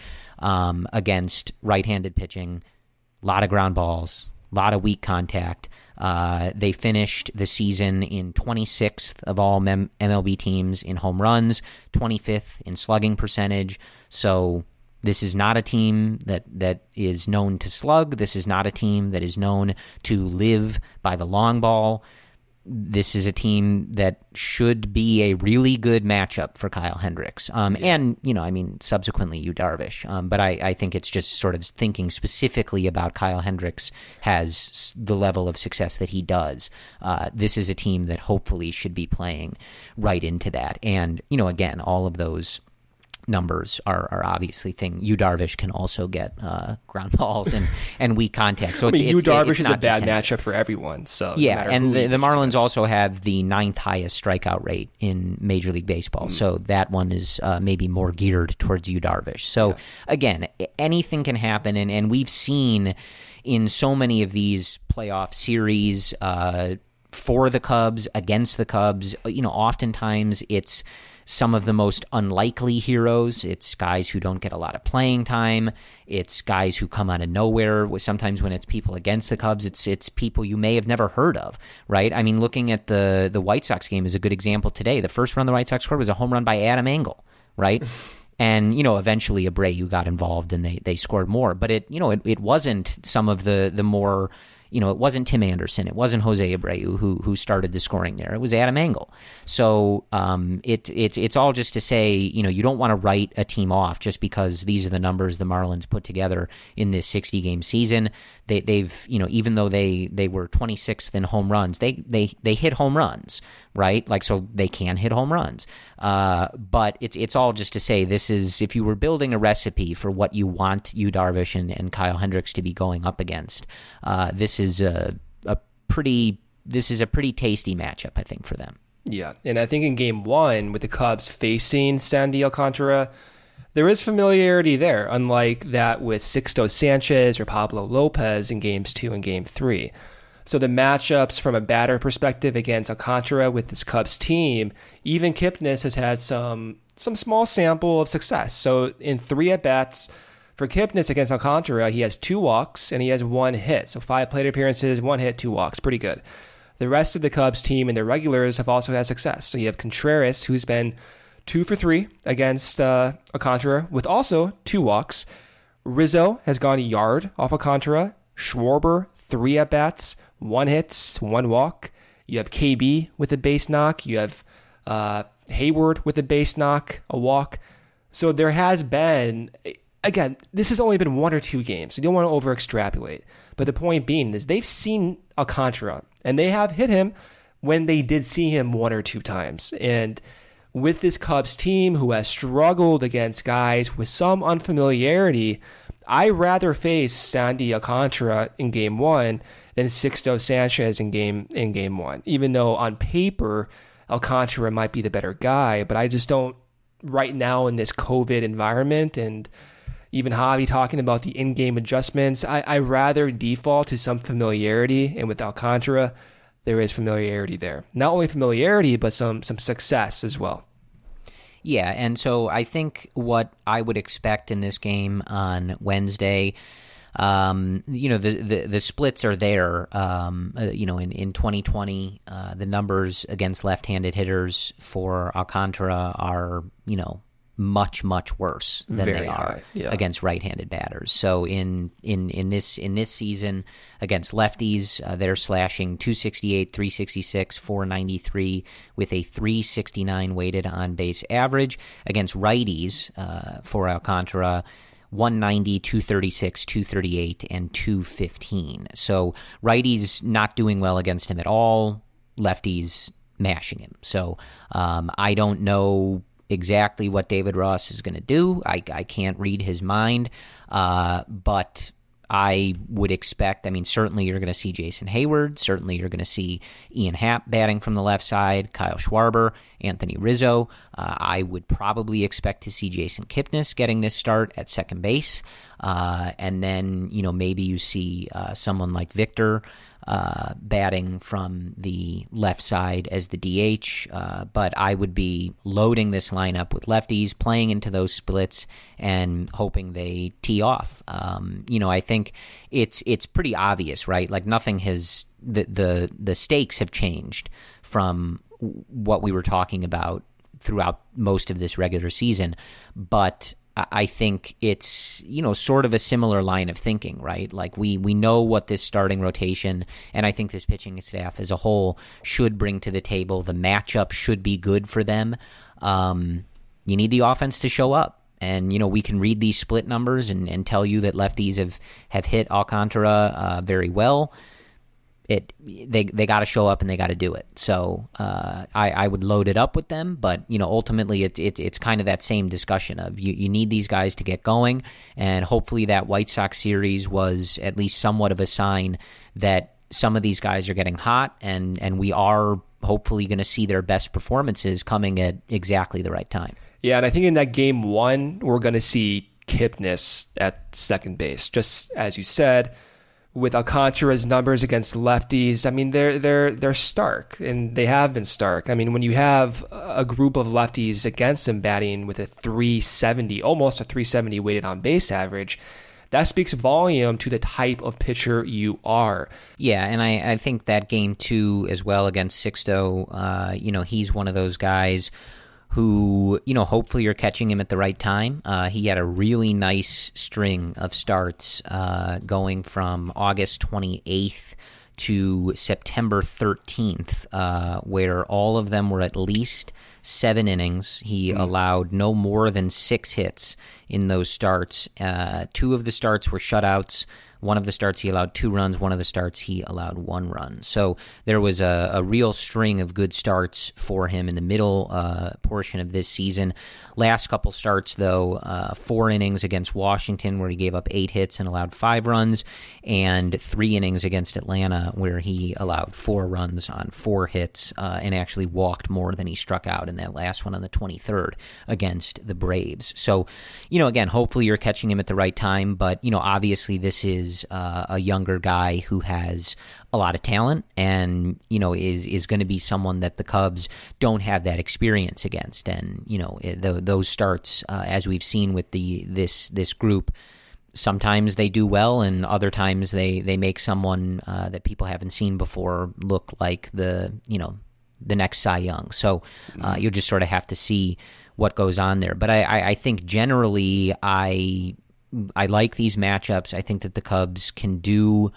F: against right-handed pitching. A lot of ground balls, a lot of weak contact. They finished the season in 26th of all MLB teams in home runs, 25th in slugging percentage. So this is not a team that is known to slug. This is not a team that is known to live by the long ball. This is a team that should be a really good matchup for Kyle Hendricks. And, subsequently Yu Darvish. But I think it's just sort of thinking specifically about Kyle Hendricks has the level of success that he does. This is a team that hopefully should be playing right into that. And, again, all of those numbers are obviously Yu Darvish can also get ground balls and weak contact. So
G: Yu Darvish is a bad matchup for everyone. So
F: yeah, and the Marlins also have the 9th highest strikeout rate in Major League Baseball. So that one is maybe more geared towards Yu Darvish. So again, anything can happen, and we've seen in so many of these playoff series for the Cubs, against the Cubs, oftentimes it's some of the most unlikely heroes. It's guys who don't get a lot of playing time. It's guys who come out of nowhere. Sometimes when it's people against the Cubs, it's people you may have never heard of, right? I mean, looking at the White Sox game is a good example today. The first run the White Sox scored was a home run by Adam Engel, right? And, eventually Abreu got involved and they scored more. But it wasn't some of the more it wasn't Tim Anderson, it wasn't Jose Abreu who started the scoring there. It was Adam Engel. So it's all just to say, you don't want to write a team off just because these are the numbers the Marlins put together in this 60-game season. They've even though they were 26th in home runs, they hit home runs, right? Like, so they can hit home runs. But it's all just to say, this is, if you were building a recipe for what you want Yu Darvish and Kyle Hendricks to be going up against, this is a pretty tasty matchup, I think, for them.
G: Yeah, and I think in Game 1, with the Cubs facing Sandy Alcantara, there is familiarity there, unlike that with Sixto Sanchez or Pablo Lopez in Games 2 and Game 3. So the matchups from a batter perspective against Alcantara with this Cubs team, even Kipnis has had some small sample of success. So in 3 at-bats for Kipnis against Alcantara, he has 2 walks and he has 1 hit. So 5 plate appearances, 1 hit, 2 walks. Pretty good. The rest of the Cubs team and their regulars have also had success. So you have Contreras, who's been 2 for 3 against Alcantara with also 2 walks. Rizzo has gone a yard off Alcantara. Schwarber, 3 at-bats, 1 hit, 1 walk. You have KB with a base knock. You have Hayward with a base knock, a walk. So there has been, again, this has only been 1 or 2 games. So you don't want to over-extrapolate. But the point being is they've seen Alcantara, and they have hit him when they did see him 1 or 2 times. And with this Cubs team who has struggled against guys with some unfamiliarity, I'd rather face Sandy Alcantara in Game 1 than Sixto Sanchez in Game 1. Even though on paper, Alcantara might be the better guy, but I just don't, right now in this COVID environment, and even Javi talking about the in-game adjustments, I rather default to some familiarity, and with Alcantara, there is familiarity there. Not only familiarity, but some success as well.
F: Yeah, and so I think what I would expect in this game on Wednesday, the splits are there. In 2020, the numbers against left-handed hitters for Alcantara are, much, much worse than
G: Very
F: they are
G: high, yeah.
F: against right-handed batters. So in this season against lefties, they're slashing 268, 366, 493 with a 369 weighted on base average. Against righties, for Alcantara, 190, 236, 238, and 215. So righties not doing well against him at all, lefties mashing him. So I don't know exactly what David Ross is going to do. I can't read his mind, but I would expect, certainly you're going to see Jason Hayward. Certainly you're going to see Ian Happ batting from the left side, Kyle Schwarber, Anthony Rizzo. I would probably expect to see Jason Kipnis getting this start at second base. And then, maybe you see someone like Victor batting from the left side as the DH, but I would be loading this lineup with lefties, playing into those splits, and hoping they tee off. I think it's pretty obvious, right? Like nothing has the stakes have changed from what we were talking about throughout most of this regular season, but I think it's, sort of a similar line of thinking, right? Like we know what this starting rotation and I think this pitching staff as a whole should bring to the table. The matchup should be good for them. You need the offense to show up. And, we can read these split numbers and tell you that lefties have hit Alcantara very well. They got to show up and they got to do it. So I would load it up with them, but ultimately it's kind of that same discussion of you need these guys to get going, and hopefully that White Sox series was at least somewhat of a sign that some of these guys are getting hot, and we are hopefully going to see their best performances coming at exactly the right time.
G: Yeah, and I think in that Game 1 we're going to see Kipnis at second base, just as you said. With Alcantara's numbers against lefties, they're stark, and they have been stark. When you have a group of lefties against him batting with a 370, almost a 370 weighted on base average, that speaks volume to the type of pitcher you are.
F: Yeah, and I think that Game 2 as well against Sixto, he's one of those guys who, hopefully you're catching him at the right time. He had a really nice string of starts going from August 28th to September 13th, where all of them were at least 7 innings. He allowed no more than 6 hits in those starts. 2 of the starts were shutouts. One of the starts he allowed 2 runs. One of the starts he allowed 1 run. So there was a real string of good starts for him in the middle portion of this season. Last couple starts, though, 4 innings against Washington where he gave up 8 hits and allowed 5 runs, and 3 innings against Atlanta where he allowed 4 runs on 4 hits and actually walked more than he struck out in that last one on the 23rd against the Braves. So, again, hopefully you're catching him at the right time, but, obviously this is a younger guy who has a lot of talent and, is going to be someone that the Cubs don't have that experience against. And, those starts, as we've seen with this group, sometimes they do well and other times they make someone that people haven't seen before look like the next Cy Young. So you'll just sort of have to see what goes on there. But I think generally I like these matchups. I think that the Cubs can do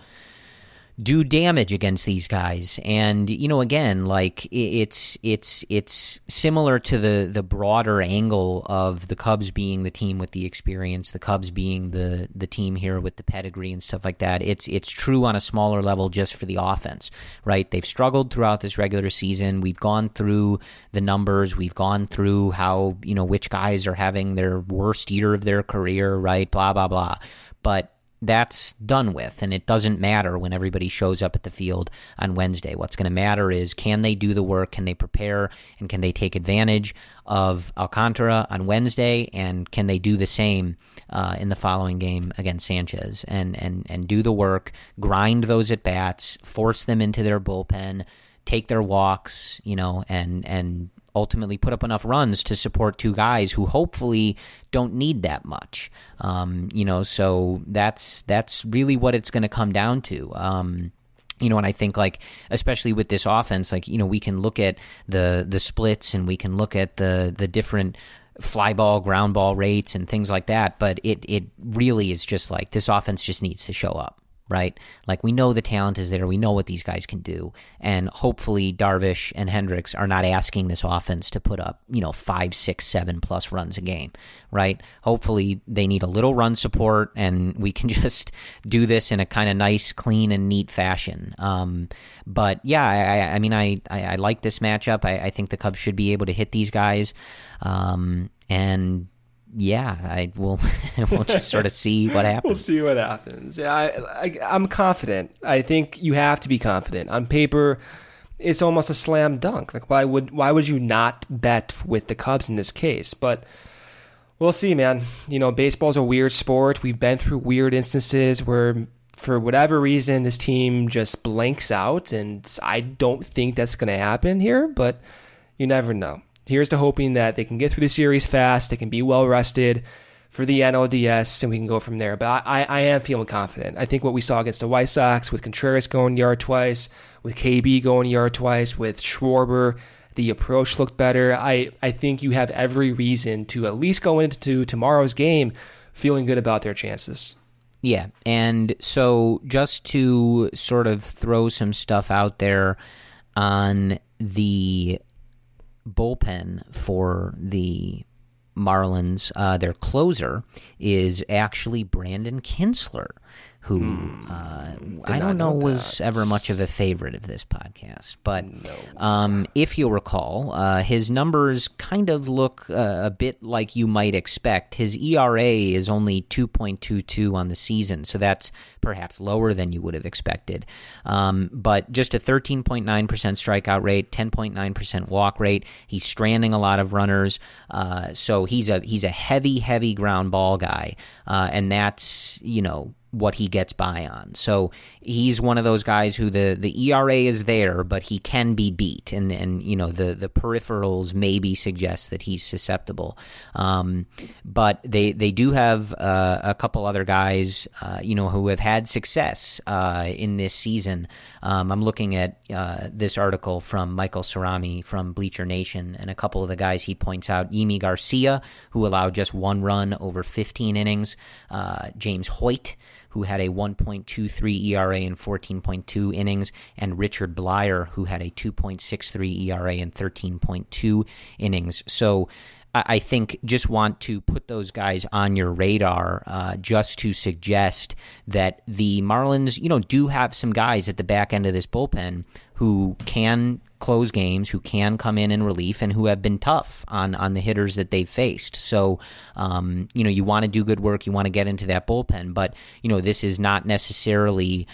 F: damage against these guys. And, again, like it's similar to the broader angle of the Cubs being the team with the experience, the Cubs being the team here with the pedigree and stuff like that. It's true on a smaller level just for the offense, right? They've struggled throughout this regular season. We've gone through the numbers. We've gone through how, which guys are having their worst year of their career, right? Blah, blah, blah. But that's done with, and it doesn't matter when everybody shows up at the field on Wednesday. What's going to matter is, can they do the work, can they prepare, and can they take advantage of Alcantara on Wednesday, and can they do the same in the following game against Sanchez, and do the work, grind those at-bats, force them into their bullpen, take their walks, and ultimately put up enough runs to support 2 guys who hopefully don't need that much. So that's really what it's going to come down to. And I think, like, especially with this offense, like, we can look at the splits and we can look at the different fly ball, ground ball rates and things like that, but it really is just like this offense just needs to show up. Right? Like, we know the talent is there. We know what these guys can do. And hopefully Darvish and Hendricks are not asking this offense to put up, 5, 6, 7 plus runs a game, right? Hopefully they need a little run support and we can just do this in a kind of nice, clean and neat fashion. But yeah, I like this matchup. I think the Cubs should be able to hit these guys. And yeah, we'll just sort of see what happens.
G: We'll see what happens. Yeah, I'm confident. I think you have to be confident. On paper, it's almost a slam dunk. Like, why would you not bet with the Cubs in this case? But we'll see, man. Baseball's a weird sport. We've been through weird instances where, for whatever reason, this team just blanks out, and I don't think that's going to happen here, but you never know. Here's to hoping that they can get through the series fast, they can be well rested for the NLDS, and we can go from there. But I am feeling confident. I think what we saw against the White Sox with Contreras going yard twice, with KB going yard twice, with Schwarber, the approach looked better. I think you have every reason to at least go into tomorrow's game feeling good about their chances.
F: Yeah, and so just to sort of throw some stuff out there on the bullpen for the Marlins, their closer is actually Brandon Kintzler, who I don't know was ever much of a favorite of this podcast. But if you'll recall, his numbers kind of look a bit like you might expect. His ERA is only 2.22 on the season, so that's perhaps lower than you would have expected. But just a 13.9% strikeout rate, 10.9% walk rate. He's stranding a lot of runners, so he's a heavy ground ball guy, and that's, what he gets by on. So he's one of those guys who the ERA is there, but he can be beat, and the peripherals maybe suggest that he's susceptible. But they do have a couple other guys who have had success in this season. I'm looking at this article from Michael Cerami from Bleacher Nation, and a couple of the guys he points out: Yimi Garcia, who allowed just 1 run over 15 innings, James Hoyt, who had a 1.23 ERA in 14.2 innings, and Richard Blyer, who had a 2.63 ERA in 13.2 innings. So I think just want to put those guys on your radar just to suggest that the Marlins, do have some guys at the back end of this bullpen who can close games, who can come in relief, and who have been tough on the hitters that they've faced. So, you want to do good work, you want to get into that bullpen, but, this is not necessarily,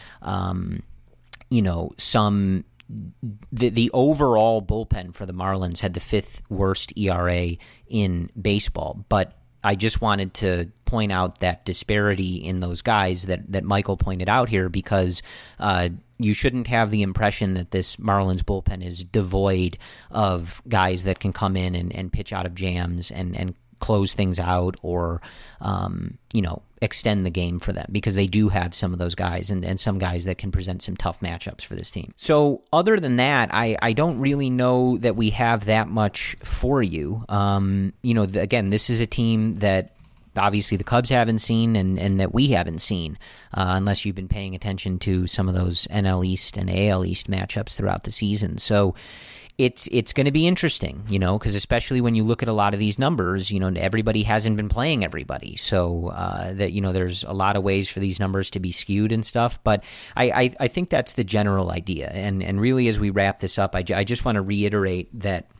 F: the overall bullpen for the Marlins had the 5th worst ERA in baseball, but I just wanted to point out that disparity in those guys that Michael pointed out here, because you shouldn't have the impression that this Marlins bullpen is devoid of guys that can come in and pitch out of jams and close things out or, extend the game for them, because they do have some of those guys and some guys that can present some tough matchups for this team. So other than that, I don't really know that we have that much for you. Again, this is a team that obviously the Cubs haven't seen and that we haven't seen, unless you've been paying attention to some of those NL East and AL East matchups throughout the season. So it's going to be interesting, because especially when you look at a lot of these numbers, everybody hasn't been playing everybody. So there's a lot of ways for these numbers to be skewed and stuff. But I think that's the general idea. And really, as we wrap this up, I just want to reiterate that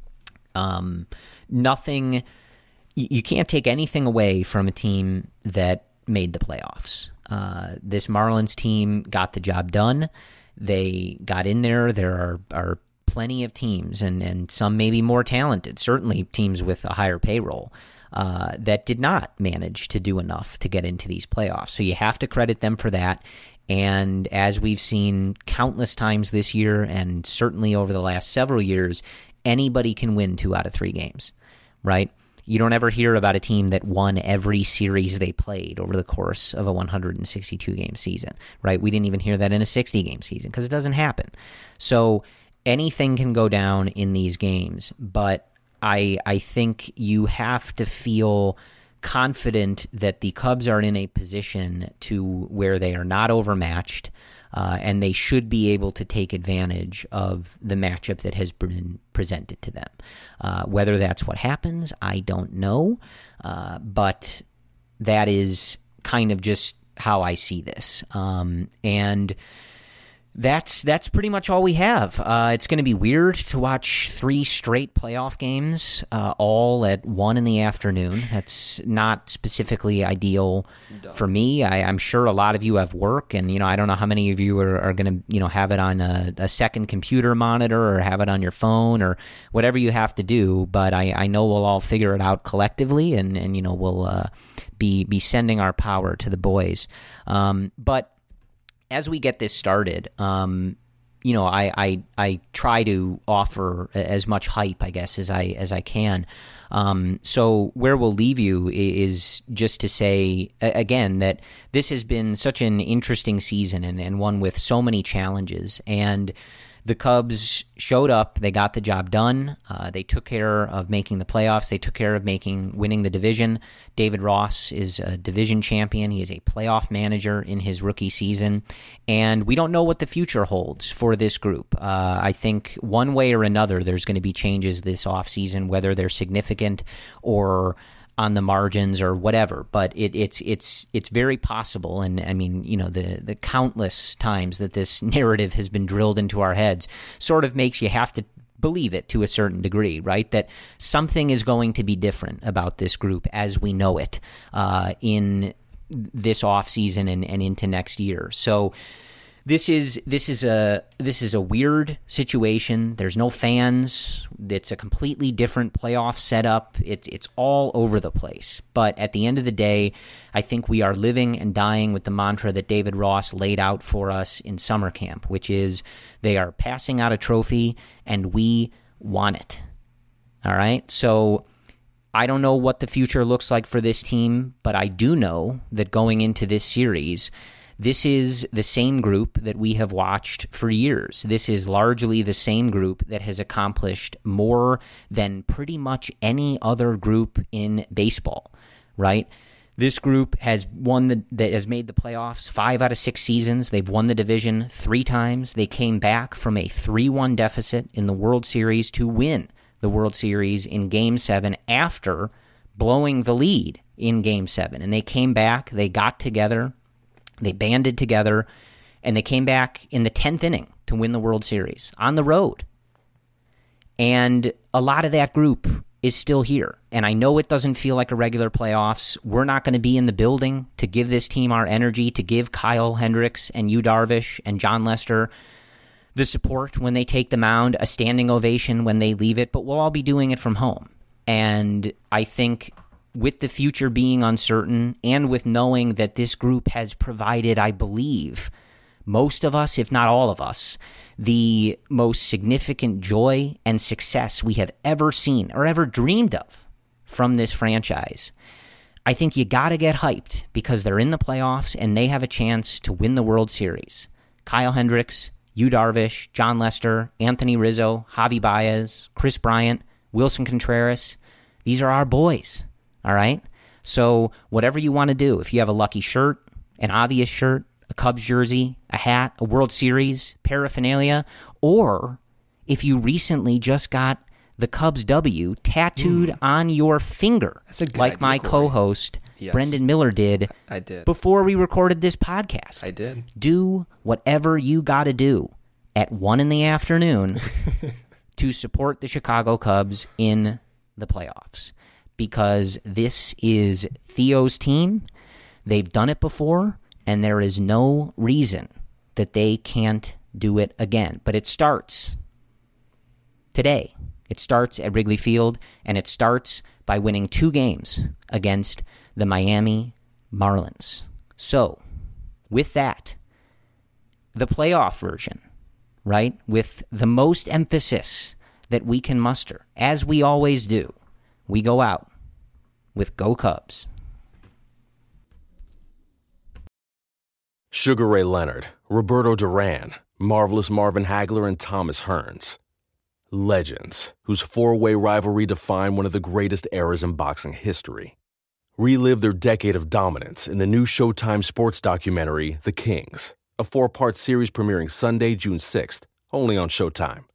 F: nothing, you can't take anything away from a team that made the playoffs. This Marlins team got the job done. They got in there. There are plenty of teams, and some maybe more talented, certainly teams with a higher payroll, that did not manage to do enough to get into these playoffs. So you have to credit them for that. And as we've seen countless times this year, and certainly over the last several years, anybody can win 2 out of 3 games, right? You don't ever hear about a team that won every series they played over the course of a 162-game season, right? We didn't even hear that in a 60-game season because it doesn't happen. So anything can go down in these games, but I think you have to feel confident that the Cubs are in a position to where they are not overmatched, and they should be able to take advantage of the matchup that has been presented to them. Whether that's what happens, I don't know, but that is kind of just how I see this. And that's pretty much all we have. It's going to be weird to watch 3 straight playoff games, all at 1 in the afternoon. That's not specifically ideal for me. I'm sure a lot of you have work, and I don't know how many of you are going to have it on a second computer monitor or have it on your phone or whatever you have to do. But I know we'll all figure it out collectively, and we'll be sending our power to the boys. But as we get this started, I try to offer as much hype, I guess, as I can. So where we'll leave you is just to say, again, that this has been such an interesting season and one with so many challenges. And the Cubs showed up. They got the job done. They took care of making the playoffs. They took care of winning the division. David Ross is a division champion. He is a playoff manager in his rookie season. And we don't know what the future holds for this group. I think one way or another, there's going to be changes this offseason, whether they're significant or on the margins or whatever, but it's very possible. And I mean, the countless times that this narrative has been drilled into our heads sort of makes you have to believe it to a certain degree, right? That something is going to be different about this group as we know it in this offseason and into next year. So This is a weird situation. There's no fans. It's a completely different playoff setup. It's all over the place. But at the end of the day, I think we are living and dying with the mantra that David Ross laid out for us in summer camp, which is they are passing out a trophy and we want it. All right? So I don't know what the future looks like for this team, but I do know that going into this series, this is the same group that we have watched for years. This is largely the same group that has accomplished more than pretty much any other group in baseball, right? This group has has made the playoffs 5 out of 6 seasons. They've won the division 3 times. They came back from a 3-1 deficit in the World Series to win the World Series in Game 7 after blowing the lead in Game 7. And they came back, they got together, they banded together, and they came back in the 10th inning to win the World Series on the road. And a lot of that group is still here. And I know it doesn't feel like a regular playoffs. We're not going to be in the building to give this team our energy, to give Kyle Hendricks and Yu Darvish and Jon Lester the support when they take the mound, a standing ovation when they leave it, but we'll all be doing it from home. And I think with the future being uncertain and with knowing that this group has provided, I believe, most of us, if not all of us, the most significant joy and success we have ever seen or ever dreamed of from this franchise, I think you got to get hyped because they're in the playoffs and they have a chance to win the World Series. Kyle Hendricks, Yu Darvish, Jon Lester, Anthony Rizzo, Javi Baez, Chris Bryant, Wilson Contreras, these are our boys. All right? So whatever you want to do, if you have a lucky shirt, an obvious shirt, a Cubs jersey, a hat, a World Series paraphernalia, or if you recently just got the Cubs W tattooed on your finger,
G: That's a good
F: like
G: idea,
F: my
G: Corey.
F: co-host
G: Yes.
F: Brendan Miller did,
G: I did.
F: before we recorded this podcast.
G: I did.
F: Do whatever you got to do at 1 p.m. to support the Chicago Cubs in the playoffs. Because this is Theo's team. They've done it before, and there is no reason that they can't do it again. But it starts today. It starts at Wrigley Field, and it starts by winning 2 games against the Miami Marlins. So, with that, the playoff version, right, with the most emphasis that we can muster, as we always do, we go out with Go Cubs.
H: Sugar Ray Leonard, Roberto Duran, Marvelous Marvin Hagler, and Thomas Hearns. Legends, whose 4-way rivalry defined one of the greatest eras in boxing history. Relive their decade of dominance in the new Showtime sports documentary, The Kings, a 4-part series premiering Sunday, June 6th, only on Showtime.